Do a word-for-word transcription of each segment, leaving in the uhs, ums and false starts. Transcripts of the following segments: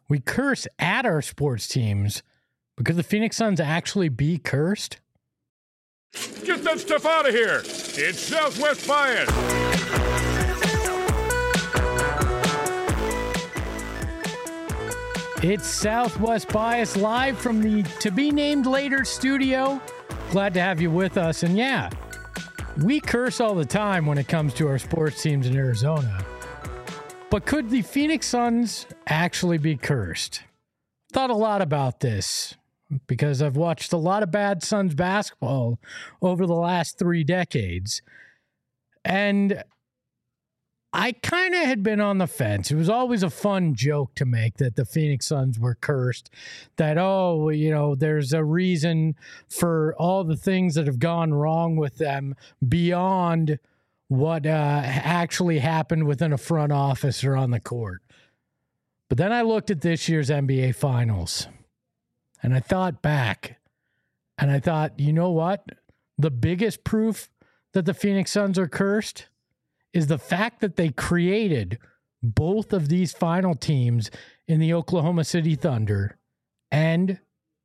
We curse at our sports teams, but could the Phoenix Suns actually be cursed? Get that stuff out of here. It's Southwest Bias. It's Southwest Bias live from the To Be Named Later studio. Glad to have you with us. And yeah, we curse all the time when it comes to our sports teams in Arizona. But could the Phoenix Suns actually be cursed? Thought a lot about this because I've watched a lot of bad Suns basketball over the last three decades. And I kind of had been on the fence. It was always a fun joke to make that the Phoenix Suns were cursed, that, oh, you know, there's a reason for all the things that have gone wrong with them beyond what uh, actually happened within a front office or on the court. But then I looked at this year's N B A Finals, and I thought back, and I thought, you know what? The biggest proof that the Phoenix Suns are cursed is the fact that they created both of these final teams in the Oklahoma City Thunder and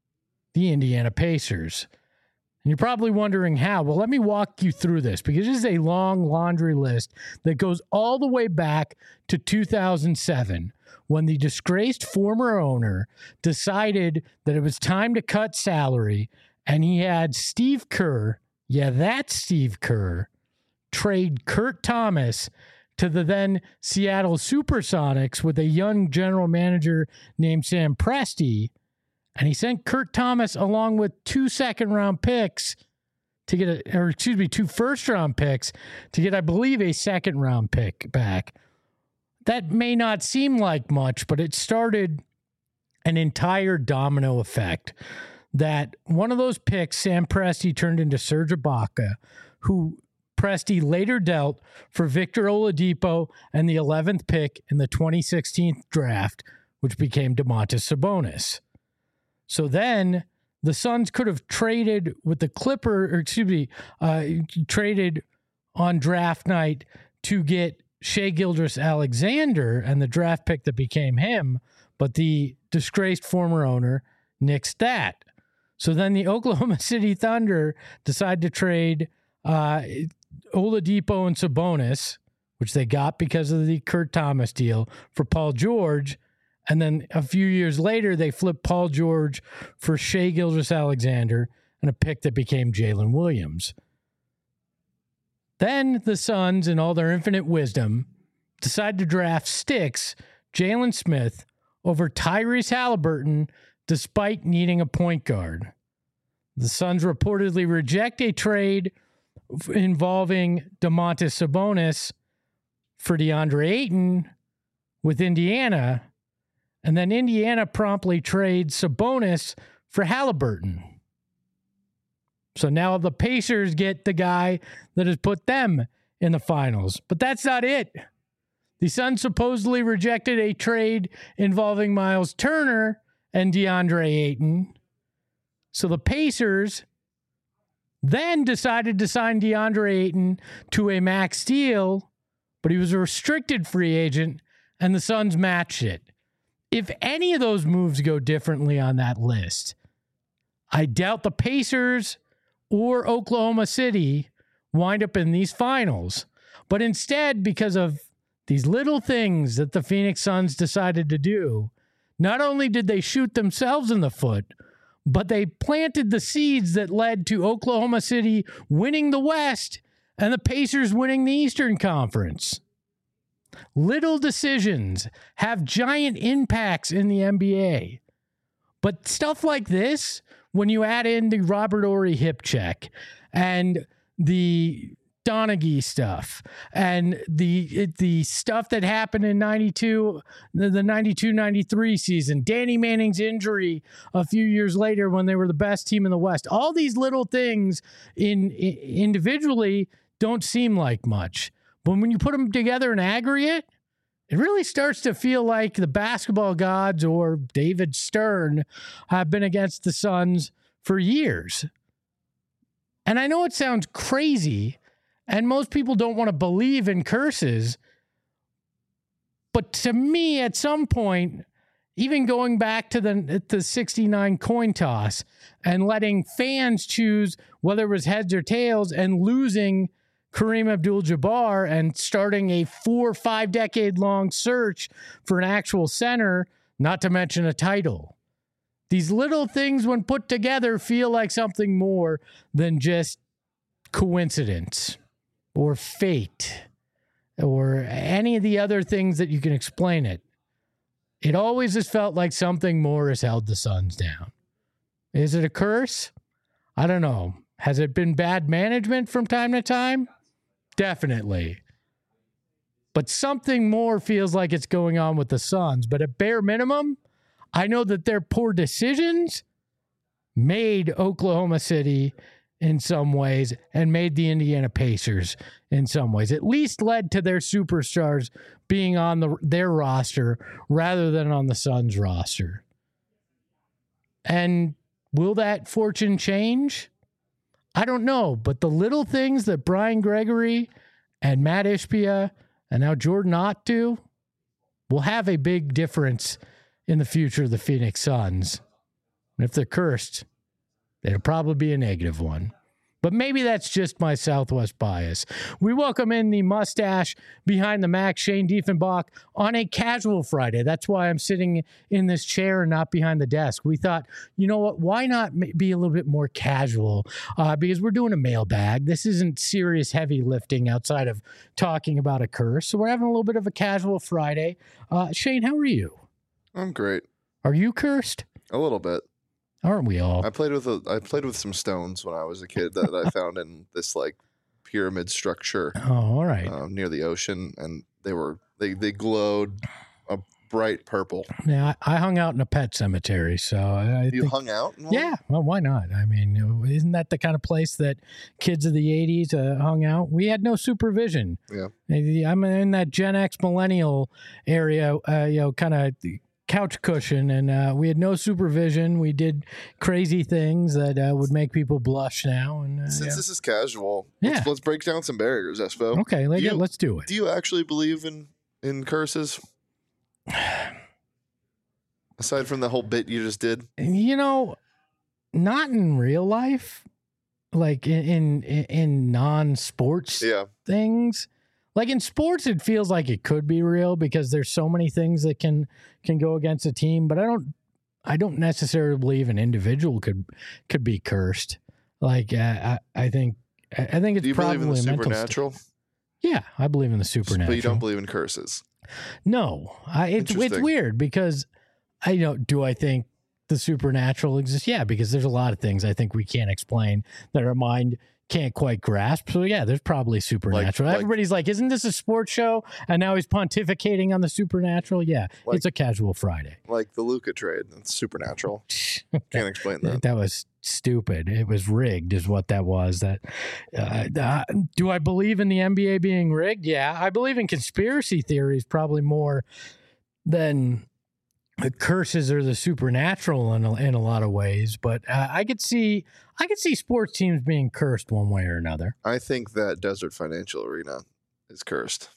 the Indiana Pacers. And you're probably wondering how. Well, let me walk you through this because this is a long laundry list that goes all the way back to two thousand seven when the disgraced former owner decided that it was time to cut salary, and he had Steve Kerr, yeah, that's Steve Kerr, trade Kurt Thomas to the then Seattle Supersonics with a young general manager named Sam Presti. And he sent Kurt Thomas along with two second round picks to get a, or excuse me, two first round picks to get, I believe, a second round pick back. That may not seem like much, but it started an entire domino effect that one of those picks, Sam Presti, turned into Serge Ibaka, who Presti later dealt for Victor Oladipo and the eleventh pick in the twenty sixteen draft, which became Domantas Sabonis. So then the Suns could have traded with the Clipper, or excuse me, uh, traded on draft night to get Shai Gilgeous-Alexander and the draft pick that became him, but the disgraced former owner nixed that. So then the Oklahoma City Thunder decided to trade uh, Oladipo and Sabonis, which they got because of the Kurt Thomas deal, for Paul George. And then a few years later, they flipped Paul George for Shai Gilgeous-Alexander and a pick that became Jalen Williams. Then the Suns, in all their infinite wisdom, decided to draft Sticks, Jalen Smith, over Tyrese Halliburton, despite needing a point guard. The Suns reportedly reject a trade involving Domantas Sabonis for DeAndre Ayton with Indiana. And then Indiana promptly trades Sabonis for Halliburton. So now the Pacers get the guy that has put them in the finals. But that's not it. The Suns supposedly rejected a trade involving Miles Turner and DeAndre Ayton. So the Pacers then decided to sign DeAndre Ayton to a max deal, but he was a restricted free agent, and the Suns matched it. If any of those moves go differently on that list, I doubt the Pacers or Oklahoma City wind up in these finals. But instead, because of these little things that the Phoenix Suns decided to do, not only did they shoot themselves in the foot, but they planted the seeds that led to Oklahoma City winning the West and the Pacers winning the Eastern Conference. Little decisions have giant impacts in the N B A. But stuff like this, when you add in the Robert Horry hip check and the Donaghy stuff and the the stuff that happened in ninety-two, the ninety-two ninety-three season, Danny Manning's injury a few years later when they were the best team in the West, all these little things in, in individually don't seem like much. But when you put them together in aggregate, it really starts to feel like the basketball gods or David Stern have been against the Suns for years. And I know it sounds crazy, and most people don't want to believe in curses, but to me, at some point, even going back to the the sixty-nine coin toss and letting fans choose whether it was heads or tails and losing Kareem Abdul-Jabbar and starting a four or five decade long search for an actual center, not to mention a title. These little things, when put together, feel like something more than just coincidence or fate or any of the other things that you can explain it. It always has felt like something more has held the Suns down. Is it a curse? I don't know. Has it been bad management from time to time? Definitely. But something more feels like it's going on with the Suns. But at bare minimum, I know that their poor decisions made Oklahoma City in some ways and made the Indiana Pacers in some ways. At least led to their superstars being on the, their roster rather than on the Suns roster. And will that fortune change? I don't know, but the little things that Brian Gregory and Matt Ishbia and now Jordan Ott do will have a big difference in the future of the Phoenix Suns. And if they're cursed, it'll probably be a negative one. But maybe that's just my Southwest bias. We welcome in the mustache behind the Mac, Shane Diefenbach, on a casual Friday. That's why I'm sitting in this chair and not behind the desk. We thought, you know what, why not be a little bit more casual? Uh, because we're doing a mailbag. This isn't serious heavy lifting outside of talking about a curse. So we're having a little bit of a casual Friday. Uh, Shane, how are you? I'm great. Are you cursed? A little bit. Aren't we all? I played with a, I played with some stones when I was a kid that I found in this like pyramid structure. Oh, all right. Um, near the ocean, and they were they they glowed a bright purple. Yeah, I, I hung out in a pet cemetery, so I You think, hung out? In one? yeah. Well, why not? I mean, isn't that the kind of place that kids of the eighties uh, hung out? We had no supervision. Yeah. I'm in that Gen X millennial area, uh, you know, kind of couch cushion, and uh, we had no supervision. We did crazy things that uh, would make people blush now. And uh, Since yeah. this is casual, Yeah. let's, let's break down some barriers, Espo. Okay, let, Do you- let's do it. Do you actually believe in in curses? Aside from the whole bit you just did, You know, not in real life, like in in, in non-sports yeah. things. Like in sports, it feels like it could be real because there's so many things that can can go against a team. But I don't, I don't necessarily believe an individual could could be cursed. Like uh, I, I think, I think it's Do you probably believe in the a mental supernatural? st- yeah, I believe in the supernatural. But you don't believe in curses. No, I, it's it's Interesting. weird because I you know do I think the supernatural exists? Yeah, because there's a lot of things I think we can't explain that our mind can't quite grasp. So yeah, there's probably supernatural. like- Everybody's like, isn't this a sports show? And now he's pontificating on the supernatural. Yeah, Like- it's a casual Friday. Like the Luca trade. It's supernatural. Can't explain that. That was stupid. It was rigged, is what that was. That uh, uh, do I believe in the N B A being rigged? Yeah, I believe in conspiracy theories probably more than the curses or the supernatural in a, in a lot of ways. But uh, I could see, I could see sports teams being cursed one way or another. I think that Desert Financial Arena is cursed.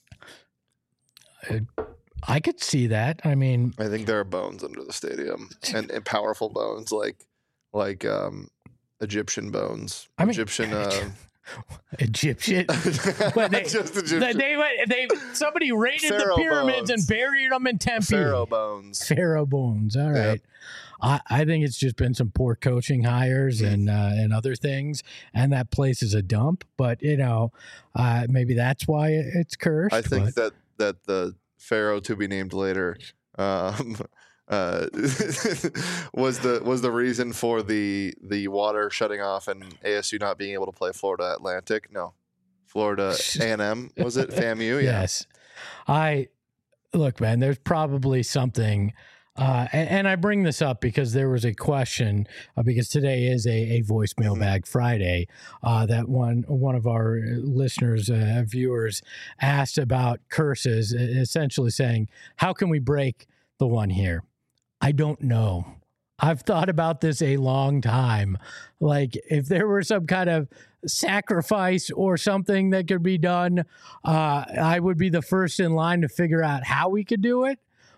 I could see that. I mean, I think there are bones under the stadium, and, and powerful bones like like um, Egyptian bones. I mean- Egyptian. Uh, Egyptian. But they, just they, Egyptian. they went. They somebody raided Pharaoh the pyramids bones. and buried them in Tempe. Pharaoh bones. Pharaoh bones. All Yep. right. I, I think it's just been some poor coaching hires Mm. and uh, and other things, and that place is a dump. But you know, uh, maybe that's why it's cursed. I think but- that that the Pharaoh to be named later um, uh, was the was the reason for the the water shutting off and A S U not being able to play Florida Atlantic. No, Florida A and M was it? FAMU. Yeah. Yes. I look, man, there's probably something. Uh, and, and I bring this up because there was a question uh, because today is a, a voicemail Mhm. bag Friday uh, that one one of our listeners, uh, viewers asked about curses, essentially saying, how can we break the one here? I don't know. I've thought about this a long time. Like if there were some kind of sacrifice or something that could be done, uh, I would be the first in line to figure out how we could do it.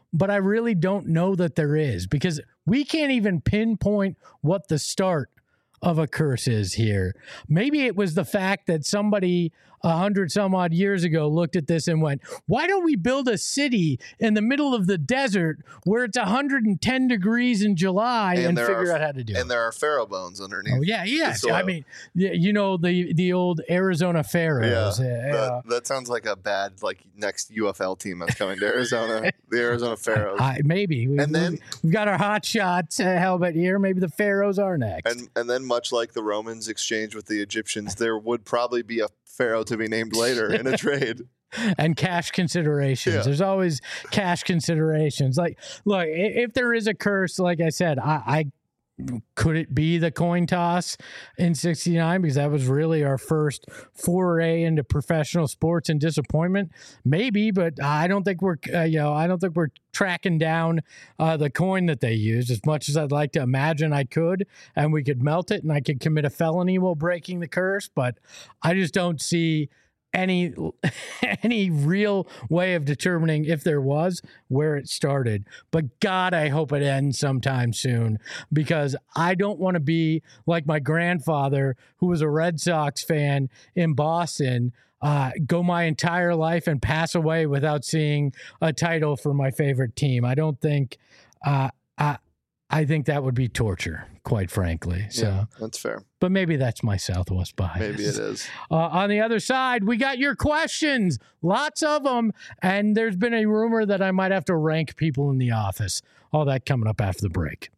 but I really don't know that there is, because we can't even pinpoint what the start of a curse is here. Maybe it was the fact that somebody a hundred some odd years ago looked at this and went, why don't we build a city in the middle of the desert where it's one hundred ten degrees in July and, and figure are, out how to do and it. And there are pharaoh bones underneath. Oh, yeah, yeah. I mean, you know, the, the old Arizona Pharaohs. Yeah, yeah. That, that sounds like a bad, like, next U F L team that's coming to Arizona. The Arizona Pharaohs. I, maybe. We, and then we've got our hot shots uh, helmet here. Maybe the Pharaohs are next. And, and then much like the Romans exchanged with the Egyptians, there would probably be a pharaoh to be named later in a trade. And cash considerations. Yeah. There's always cash considerations. Like, look, if there is a curse, like I said, I, I could it be the coin toss in sixty-nine, because that was really our first foray into professional sports and disappointment? Maybe, but I don't think we're, uh, you know, I don't think we're tracking down uh, the coin that they used, as much as I'd like to imagine I could, and we could melt it and I could commit a felony while breaking the curse. But I just don't see any any real way of determining, if there was, where it started. But God, I hope it ends sometime soon, because I don't want to be like my grandfather, who was a Red Sox fan in Boston, uh, go my entire life and pass away without seeing a title for my favorite team. I don't think uh, I, I think that would be torture, quite frankly. So yeah, that's fair. But maybe that's my Southwest bias. Maybe it is. Uh, on the other side, we got your questions, lots of them, and there's been a rumor that I might have to rank people in the office. All that coming up after the break.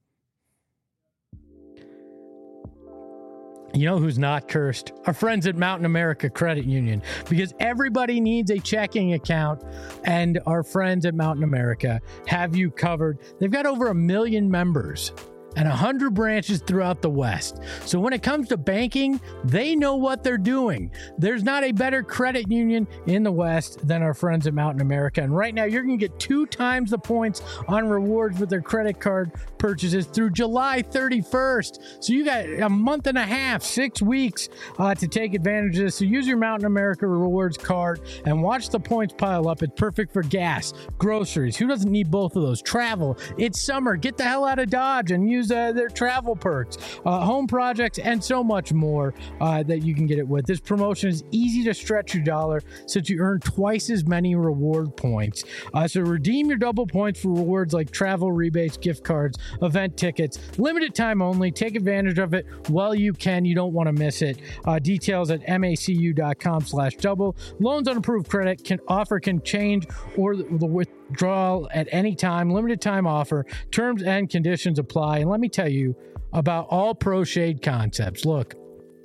You know who's not cursed? Our friends at Mountain America Credit Union, because everybody needs a checking account, and our friends at Mountain America have you covered. They've got over a million members and one hundred branches throughout the West. So when it comes to banking, they know what they're doing. There's not a better credit union in the West than our friends at Mountain America. And right now, you're going to get two times the points on rewards with their credit card purchases through July thirty-first. So you got a month and a half, six weeks uh, to take advantage of this. So use your Mountain America Rewards card and watch the points pile up. It's perfect for gas, groceries. Who doesn't need both of those? Travel. It's summer. Get the hell out of Dodge and use Uh, their travel perks, uh, home projects, and so much more uh, that you can get it with. This promotion is easy to stretch your dollar, since you earn twice as many reward points. Uh, so redeem your double points for rewards like travel rebates, gift cards, event tickets. Limited time only. Take advantage of it while you can. You don't want to miss it. Uh, details at macu.com slash double. Loans on approved credit can offer can change, or the, the withdrawal at any time. Limited time offer. Terms and conditions apply. And let me tell you about All Pro Shade Concepts. Look,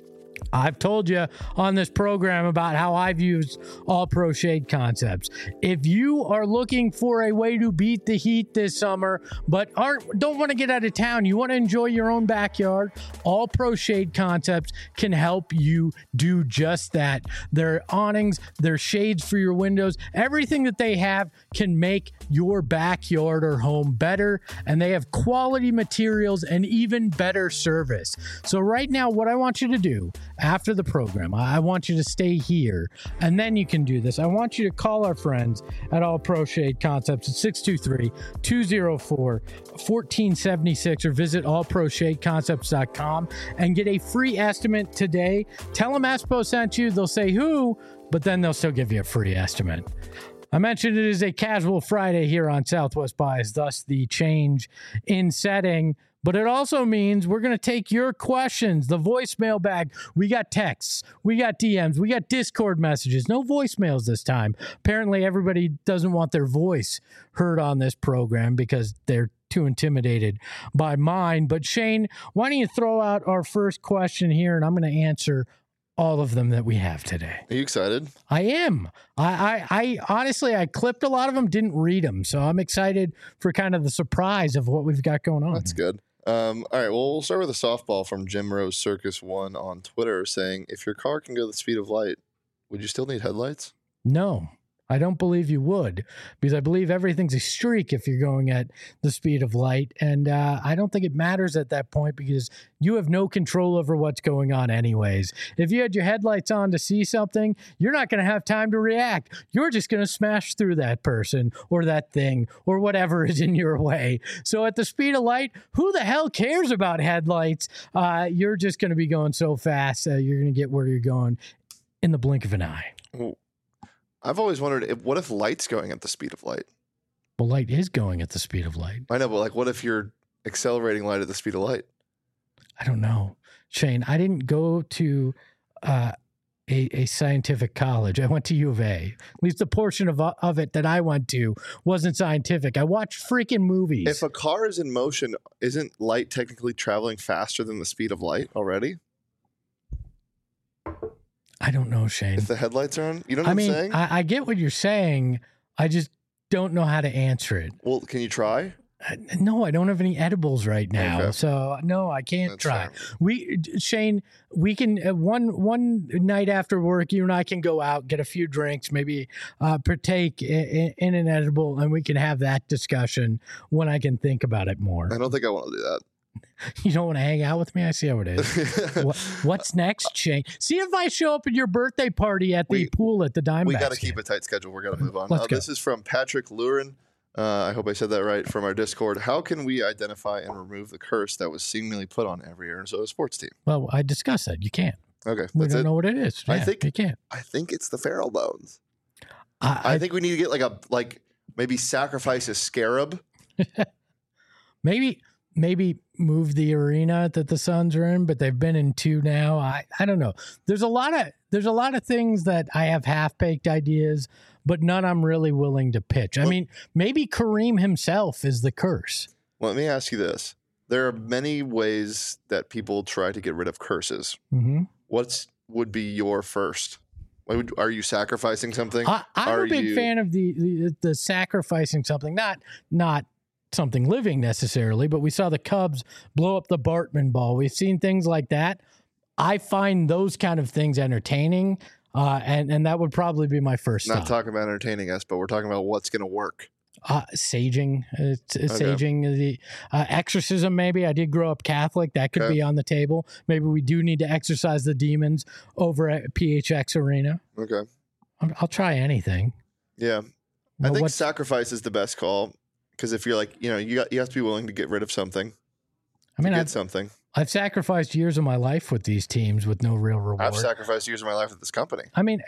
I've told you on this program about how I've used All Pro Shade Concepts. If you are looking for a way to beat the heat this summer, but aren't don't want to get out of town, you want to enjoy your own backyard, All Pro Shade Concepts can help you do just that. Their awnings, their shades for your windows, everything that they have can make your backyard or home better, and they have quality materials and even better service. So right now, what I want you to do after the program, I want you to stay here, and then you can do this. I want you to call our friends at All Pro Shade Concepts at six two three, two oh four, one four seven six or visit all pro shade concepts dot com and get a free estimate today. Tell them Espo sent you. They'll say who, but then they'll still give you a free estimate. I mentioned it is a casual Friday here on Southwest Bias, thus the change in setting. But it also means we're going to take your questions, the voicemail bag. We got texts, we got D Ms, we got Discord messages. No voicemails this time. Apparently, everybody doesn't want their voice heard on this program because they're too intimidated by mine. But Shane, why don't you throw out our first question here, and I'm going to answer all of them that we have today. Are you excited? I am. I, I, I honestly, I clipped a lot of them, didn't read them. So I'm excited for kind of the surprise of what we've got going on. That's good. Um, all right, well, we'll start with a softball from Jim Rose Circus one on Twitter saying, if your car can go the speed of light, would you still need headlights? No. I don't believe you would, because I believe everything's a streak if you're going at the speed of light. And uh, I don't think it matters at that point because you have no control over what's going on anyways. If you had your headlights on to see something, you're not going to have time to react. You're just going to smash through that person or that thing or whatever is in your way. So at the speed of light, who the hell cares about headlights? Uh, you're just going to be going so fast, uh, you're going to get where you're going in the blink of an eye. Well, I've always wondered, if, what if light's going at the speed of light? Well, light is going at the speed of light. I know, but like, what if you're accelerating light at the speed of light? I don't know, Shane. I didn't go to uh, a, a scientific college. I went to U of A. At least the portion of of it that I went to wasn't scientific. I watched freaking movies. If a car is in motion, isn't light technically traveling faster than the speed of light already? I don't know, Shane. If the headlights are on, you know what I I'm mean, saying? I, I get what you're saying. I just don't know how to answer it. Well, can you try? Uh, No, I don't have any edibles right now, Okay. so no, I can't That's try. fair. We, Shane, we can uh, one one night after work, you and I can go out, get a few drinks, maybe uh, partake in, in an edible, and we can have that discussion when I can think about it more. I don't think I want to do that. You don't want to hang out with me? I see how it is. what, what's next, Shane? See if I show up at your birthday party at the We- pool at the Diamondbacks. We got to game. keep a tight schedule. We're going to move on. Let's Uh, go. this is from Patrick Lurin. Uh, I hope I said that right, from our Discord. How can we identify and remove the curse that was seemingly put on every Arizona sports team? Well, I discussed that. You can't. Okay, We that's don't it. know what it is. I Yeah, think- you can't. I think it's the Feral Bones. I, I I think we need to get like a like maybe sacrifice a scarab. maybe maybe move the arena that the Suns are in, but they've been in two now. I, I don't know. There's a lot of there's a lot of things that I have half baked ideas, but none I'm really willing to pitch. I Well- mean, maybe Kareem himself is the curse. Well, let me ask you this: there are many ways that people try to get rid of curses. Mm-hmm. What's would be your first? Like, would- Are you sacrificing something? I, I'm Are a big you- fan of the, the the sacrificing something, not not something living necessarily, but we saw the Cubs blow up the Bartman ball. We've seen things like that. I find those kind of things entertaining, uh, and and that would probably be my first Not stop. talking about entertaining us, but we're talking about what's going to work. Uh, saging, uh, t- saging, the uh, exorcism. Maybe I did grow up Catholic. That could Okay. be on the table. Maybe we do need to exorcise the demons over at P H X Arena. Okay. I'll, I'll try anything. Yeah. I Well, think what- sacrifice is the best call because if you're like, you know, you got you have to be willing to get rid of something. I mean, to get I've, something. I've sacrificed years of my life with these teams with no real reward. I've sacrificed years of my life with this company. I mean,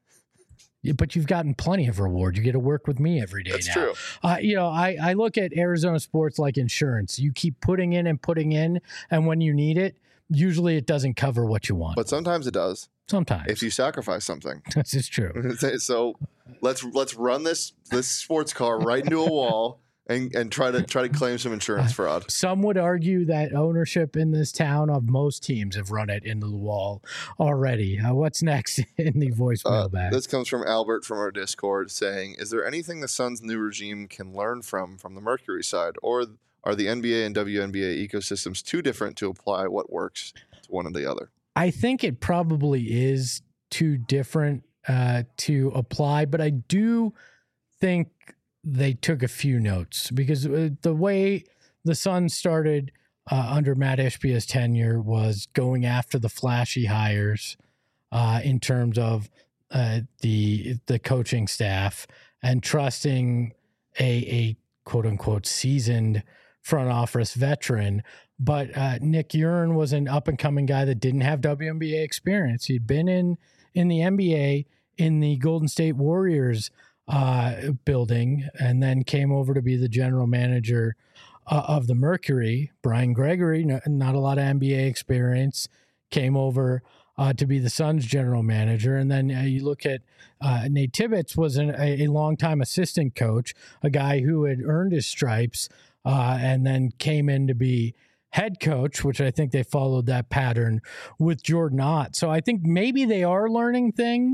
yeah, but you've gotten plenty of reward. You get to work with me every day That's now. true. Uh, you know, I, I look at Arizona sports like insurance. You keep putting in and putting in, and when you need it, usually it doesn't cover what you want. But sometimes it does Sometimes. if you sacrifice something. This is true. So let's let's run this this sports car right into a wall and, and try to try to claim some insurance fraud. Some would argue that ownership in this town of most teams have run it into the wall already. Uh, what's next in the voicemail Uh, bag? this comes from Albert from our Discord saying, "Is there anything the Suns' new regime can learn from from the Mercury side, or are the N B A and W N B A ecosystems too different to apply what works to one or the other?" I think it probably is too different uh, to apply, but I do think they took a few notes because uh, the way the Suns started uh, under Matt Ishbia's tenure was going after the flashy hires uh, in terms of uh, the the coaching staff and trusting a, a quote unquote seasoned front office veteran. But uh, Nick Urin was an up and coming guy that didn't have W N B A experience. He'd been in in the N B A in the Golden State Warriors uh, building, and then came over to be the general manager uh, of the Mercury. Brian Gregory, no, not a lot of N B A experience, came over uh, to be the Suns general manager. And then uh, you look at uh, Nate Tibbetts was an, a, a longtime assistant coach, a guy who had earned his stripes, uh, and then came in to be head coach, which I think they followed that pattern with Jordan Ott. So I think maybe they are learning things,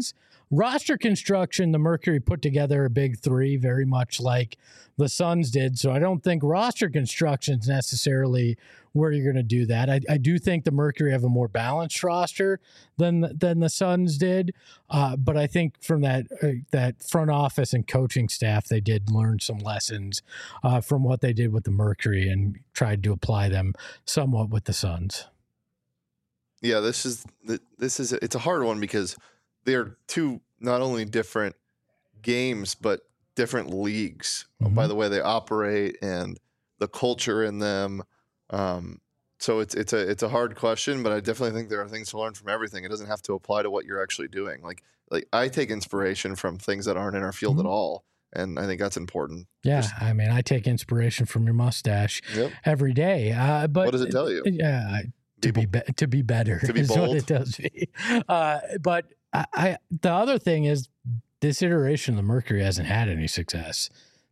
roster construction, the Mercury put together a big three, very much like the Suns did. So I don't think roster construction is necessarily where you're going to do that. I, I do think the Mercury have a more balanced roster than than the Suns did, uh, but I think from that uh, that front office and coaching staff, they did learn some lessons uh, from what they did with the Mercury and tried to apply them somewhat with the Suns. Yeah, this is this is it's a hard one because they're two not only different games but different leagues mm-hmm. by the way they operate and the culture in them. Um, so it's it's a it's a hard question, but I definitely think there are things to learn from everything. It doesn't have to apply to what you're actually doing. Like like I take inspiration from things that aren't in our field mm-hmm. at all, and I think that's important. Yeah, Just, I mean, I take inspiration from your mustache yep. every day. Uh, but what does it tell you? Yeah, to be, be to be better to be is bold. What it tells me. Uh, but I, I the other thing is this iteration of the Mercury hasn't had any success,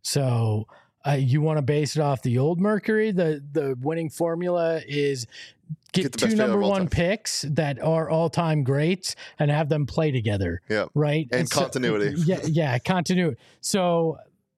so. Uh, you want to base it off the old Mercury. The the winning formula is get, get two number one picks that are all time greats and have them play together. Yeah, right. And, and continuity. So, yeah, yeah, continuity. So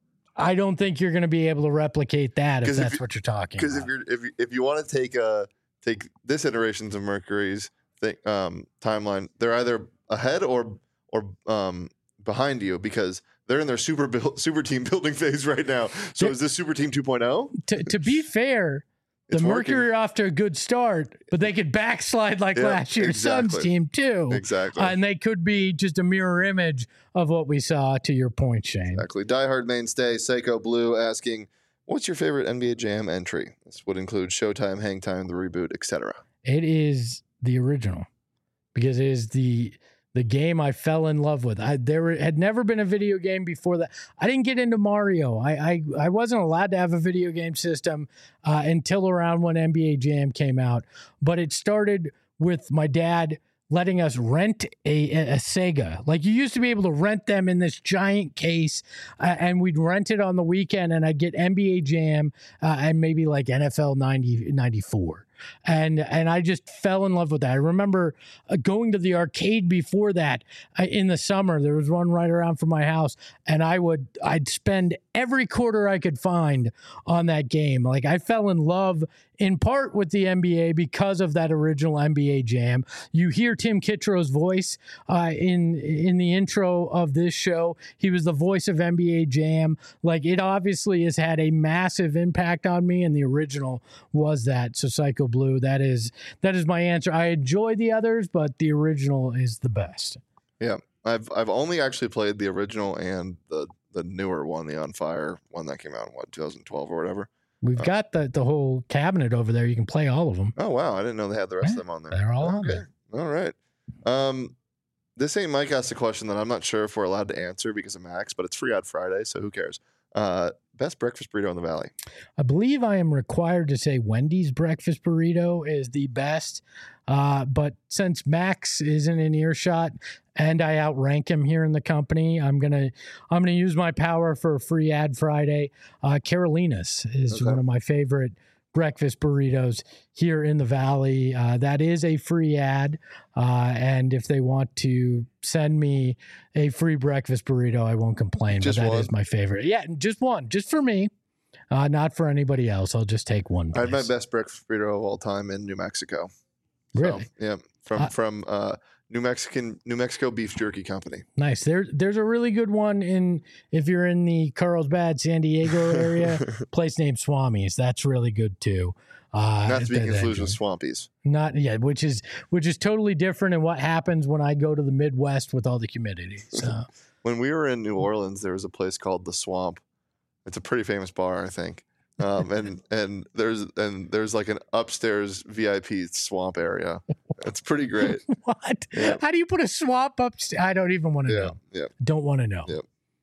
I don't think you're going to be able to replicate that if that's if you, what you're talking. Because if you're if you, if you want to take a take this iterations of Mercury's thing, um, timeline, they're either ahead or or um, behind you because. They're in their super build, super team building phase right now. So is this super team two point oh? To, to be fair, the Mercury are off to a good start, but they could backslide like yeah, last year's exactly. Suns team too. Exactly. Uh, and they could be just a mirror image of what we saw to your point, Shane. Exactly. Diehard mainstay, Psycho Blue asking, what's your favorite N B A Jam entry? This would include Showtime, Hang Time, The Reboot, et cetera. It is the original because it is the... The game I fell in love with. I there had never been a video game before that. I didn't get into Mario. I I, I wasn't allowed to have a video game system uh, until around when N B A Jam came out. But it started with my dad letting us rent a, a Sega. Like you used to be able to rent them in this giant case, uh, and we'd rent it on the weekend, and I'd get N B A Jam uh, and maybe like N F L ninety, ninety-four. And and I just fell in love with that. I remember uh, going to the arcade before that uh, in the summer. There was one right around from my house, and I would I'd spend every quarter I could find on that game. Like I fell in love in part with the N B A because of that original N B A Jam. You hear Tim Kittrough's voice uh, in in the intro of this show. He was the voice of N B A Jam. Like it obviously has had a massive impact on me, and the original was that. So Psycho Blue, that is that is my answer. I enjoy the others, but the original is the best. Yeah, I've I've only actually played the original and the the newer one, the On Fire one that came out in what twenty twelve or whatever. We've uh, got the the whole cabinet over there. You can play all of them. Oh wow, I didn't know they had the rest yeah, of them on there. They're all okay. on there. All right. Um, this ain't Mike asked a question that I'm not sure if we're allowed to answer because of Max, but it's Free Ad Friday, so who cares? Uh, best breakfast burrito in the Valley. I believe I am required to say Wendy's breakfast burrito is the best. Uh, but since Max isn't in earshot and I outrank him here in the company, I'm gonna I'm gonna use my power for a Free Ad Friday. Uh, Carolina's is okay. one of my favorite breakfast burritos here in the Valley. Uh, that is a free ad. Uh, and if they want to send me a free breakfast burrito, I won't complain. Just but that one. Is my favorite. Yeah, just one, just for me, uh, not for anybody else. I'll just take one. I had my best breakfast burrito of all time in New Mexico. Really? So, yeah. From, uh, from, uh, New Mexican, New Mexico Beef Jerky Company. Nice. There, there's a really good one in, if you're in the Carlsbad, San Diego area, place named Swami's. That's really good too. Uh, Not to be confused with Swampies. Not yeah, which is which is totally different in what happens when I go to the Midwest with all the humidity. So when we were in New Orleans, there was a place called the Swamp. It's a pretty famous bar, I think. Um, and and there's and there's like an upstairs V I P swamp area. It's pretty great. What? Yeah. How do you put a swamp upstairs? I don't even want to yeah, know. Yeah. Don't want to know.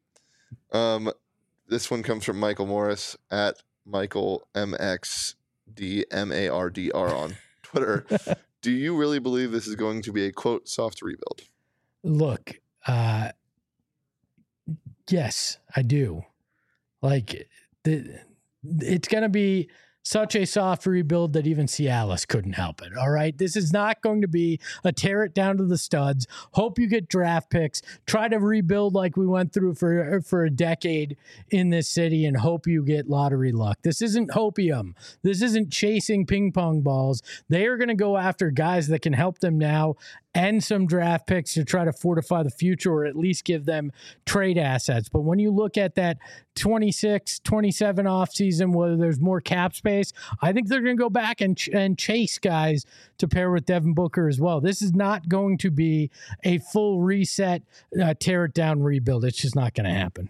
Yeah. Um, this one comes from Michael Morris at Michael M X D M A R D R on Twitter. Do you really believe this is going to be a quote soft rebuild? Look, uh, yes, I do. Like the. It's going to be such a soft rebuild that even Cialis couldn't help it. All right. This is not going to be a tear it down to the studs. Hope you get draft picks. Try to rebuild like we went through for, for a decade in this city and hope you get lottery luck. This isn't hopium. This isn't chasing ping pong balls. They are going to go after guys that can help them now and some draft picks to try to fortify the future or at least give them trade assets. But when you look at that twenty-six, twenty-seven offseason, whether there's more cap space, I think they're going to go back and, ch- and chase guys to pair with Devin Booker as well. This is not going to be a full reset, uh, tear it down, rebuild. It's just not going to happen.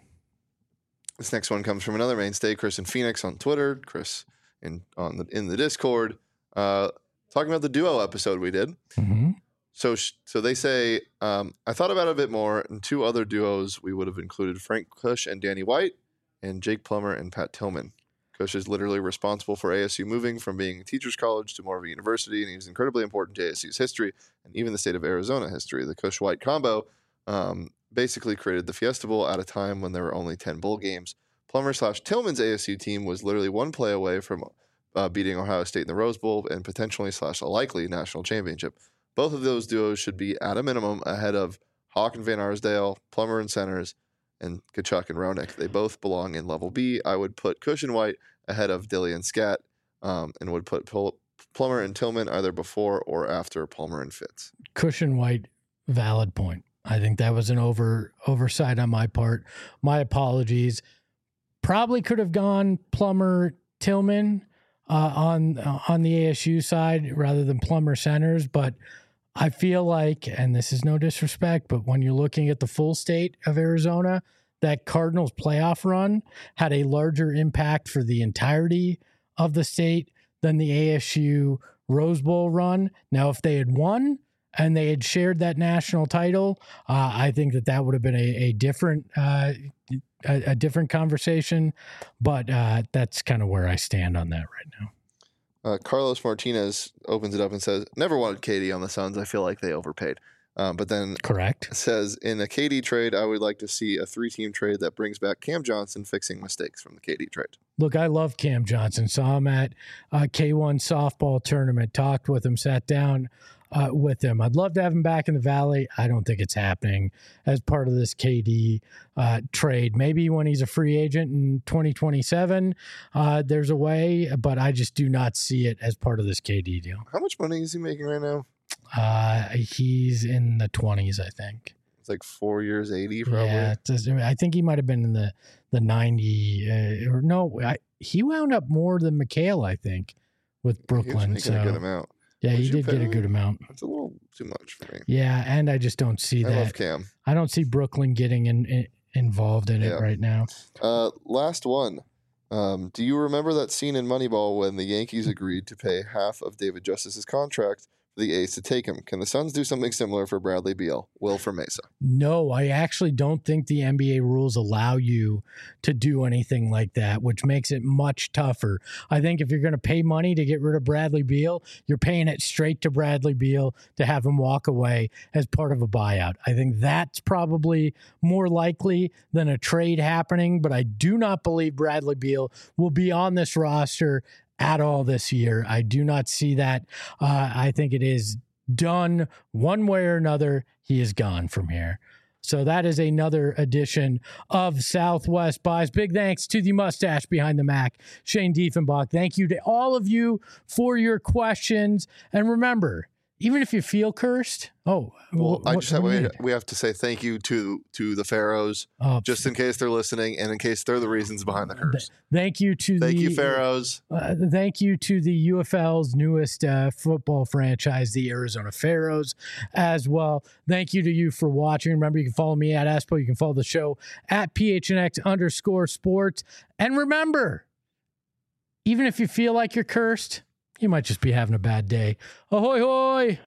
This next one comes from another mainstay, Chris in Phoenix on Twitter, Chris in on the in the Discord, uh, talking about the duo episode we did. Mm-hmm. So, so they say, um, I thought about it a bit more, and two other duos we would have included Frank Kush and Danny White, and Jake Plummer and Pat Tillman. Kush is literally responsible for A S U moving from being a teacher's college to more of a university, and he's incredibly important to A S U's history and even the state of Arizona history. The Kush-White combo um, basically created the Fiesta Bowl at a time when there were only ten bowl games. Plummer slash Tillman's A S U team was literally one play away from uh, beating Ohio State in the Rose Bowl and potentially slash a likely national championship. Both of those duos should be, at a minimum, ahead of Hawk and Van Arsdale, Plummer and Centers, and Kachuk and Ronick. They both belong in level B. I would put Kush and White ahead of Dilly and Scat, um, and would put Pl- Plummer and Tillman either before or after Plummer and Fitz. Kush and White, valid point. I think that was an over oversight on my part. My apologies. Probably could have gone Plummer, Tillman uh, on uh, on the A S U side rather than Plummer Centers, but I feel like, and this is no disrespect, but when you're looking at the full state of Arizona, that Cardinals playoff run had a larger impact for the entirety of the state than the A S U Rose Bowl run. Now, if they had won and they had shared that national title, uh, I think that that would have been a, a different uh, a, a different conversation. But uh, that's kind of where I stand on that right now. Uh, Carlos Martinez opens it up and says, never wanted K D on the Suns. I feel like they overpaid. Um, but then correct says, in a K D trade, I would like to see a three-team trade that brings back Cam Johnson fixing mistakes from the K D trade. Look, I love Cam Johnson. Saw him at uh, K one softball tournament, talked with him, sat down uh, with him. I'd love to have him back in the Valley. I don't think it's happening as part of this K D uh, trade. Maybe when he's a free agent in twenty twenty-seven, uh, there's a way, but I just do not see it as part of this K D deal. How much money is he making right now? Uh, he's in the twenties, I think. It's like four years, eighty probably. Yeah, it's, I think he might have been in the the ninety. Uh, or no, I, he wound up more than McHale, I think, with Brooklyn. He was so a good amount. Yeah, Would he did get a me? good amount. That's a little too much for me. Yeah, and I just don't see I that. love Cam. I don't see Brooklyn getting in, in, involved in Yeah. it right now. Uh, last one. Um, do you remember that scene in Moneyball when the Yankees agreed to pay half of David Justice's contract for the A's to take him? Can the Suns do something similar for Bradley Beal? Will for Mesa. No, I actually don't think the N B A rules allow you to do anything like that, which makes it much tougher. I think if you're going to pay money to get rid of Bradley Beal, you're paying it straight to Bradley Beal to have him walk away as part of a buyout. I think that's probably more likely than a trade happening, but I do not believe Bradley Beal will be on this roster at all this year. I do not see that. Uh, I think it is done one way or another. He is gone from here. So that is another edition of Southwest Buys. Big thanks to the mustache behind the Mac, Shane Diefenbach. Thank you to all of you for your questions. And remember, even if you feel cursed, oh, well, wh- I what, just have, what do you we, mean? we have to say thank you to to the Pharaohs, Oh, just in case they're listening and in case they're the reasons behind the curse. Thank you to Thank the you, Pharaohs. Uh, thank you to the U F L's newest uh, football franchise, the Arizona Pharaohs, as well. Thank you to you for watching. Remember, you can follow me at Espo. You can follow the show at P H N X underscore sports. And remember, even if you feel like you're cursed, you might just be having a bad day. Ahoy, hoy!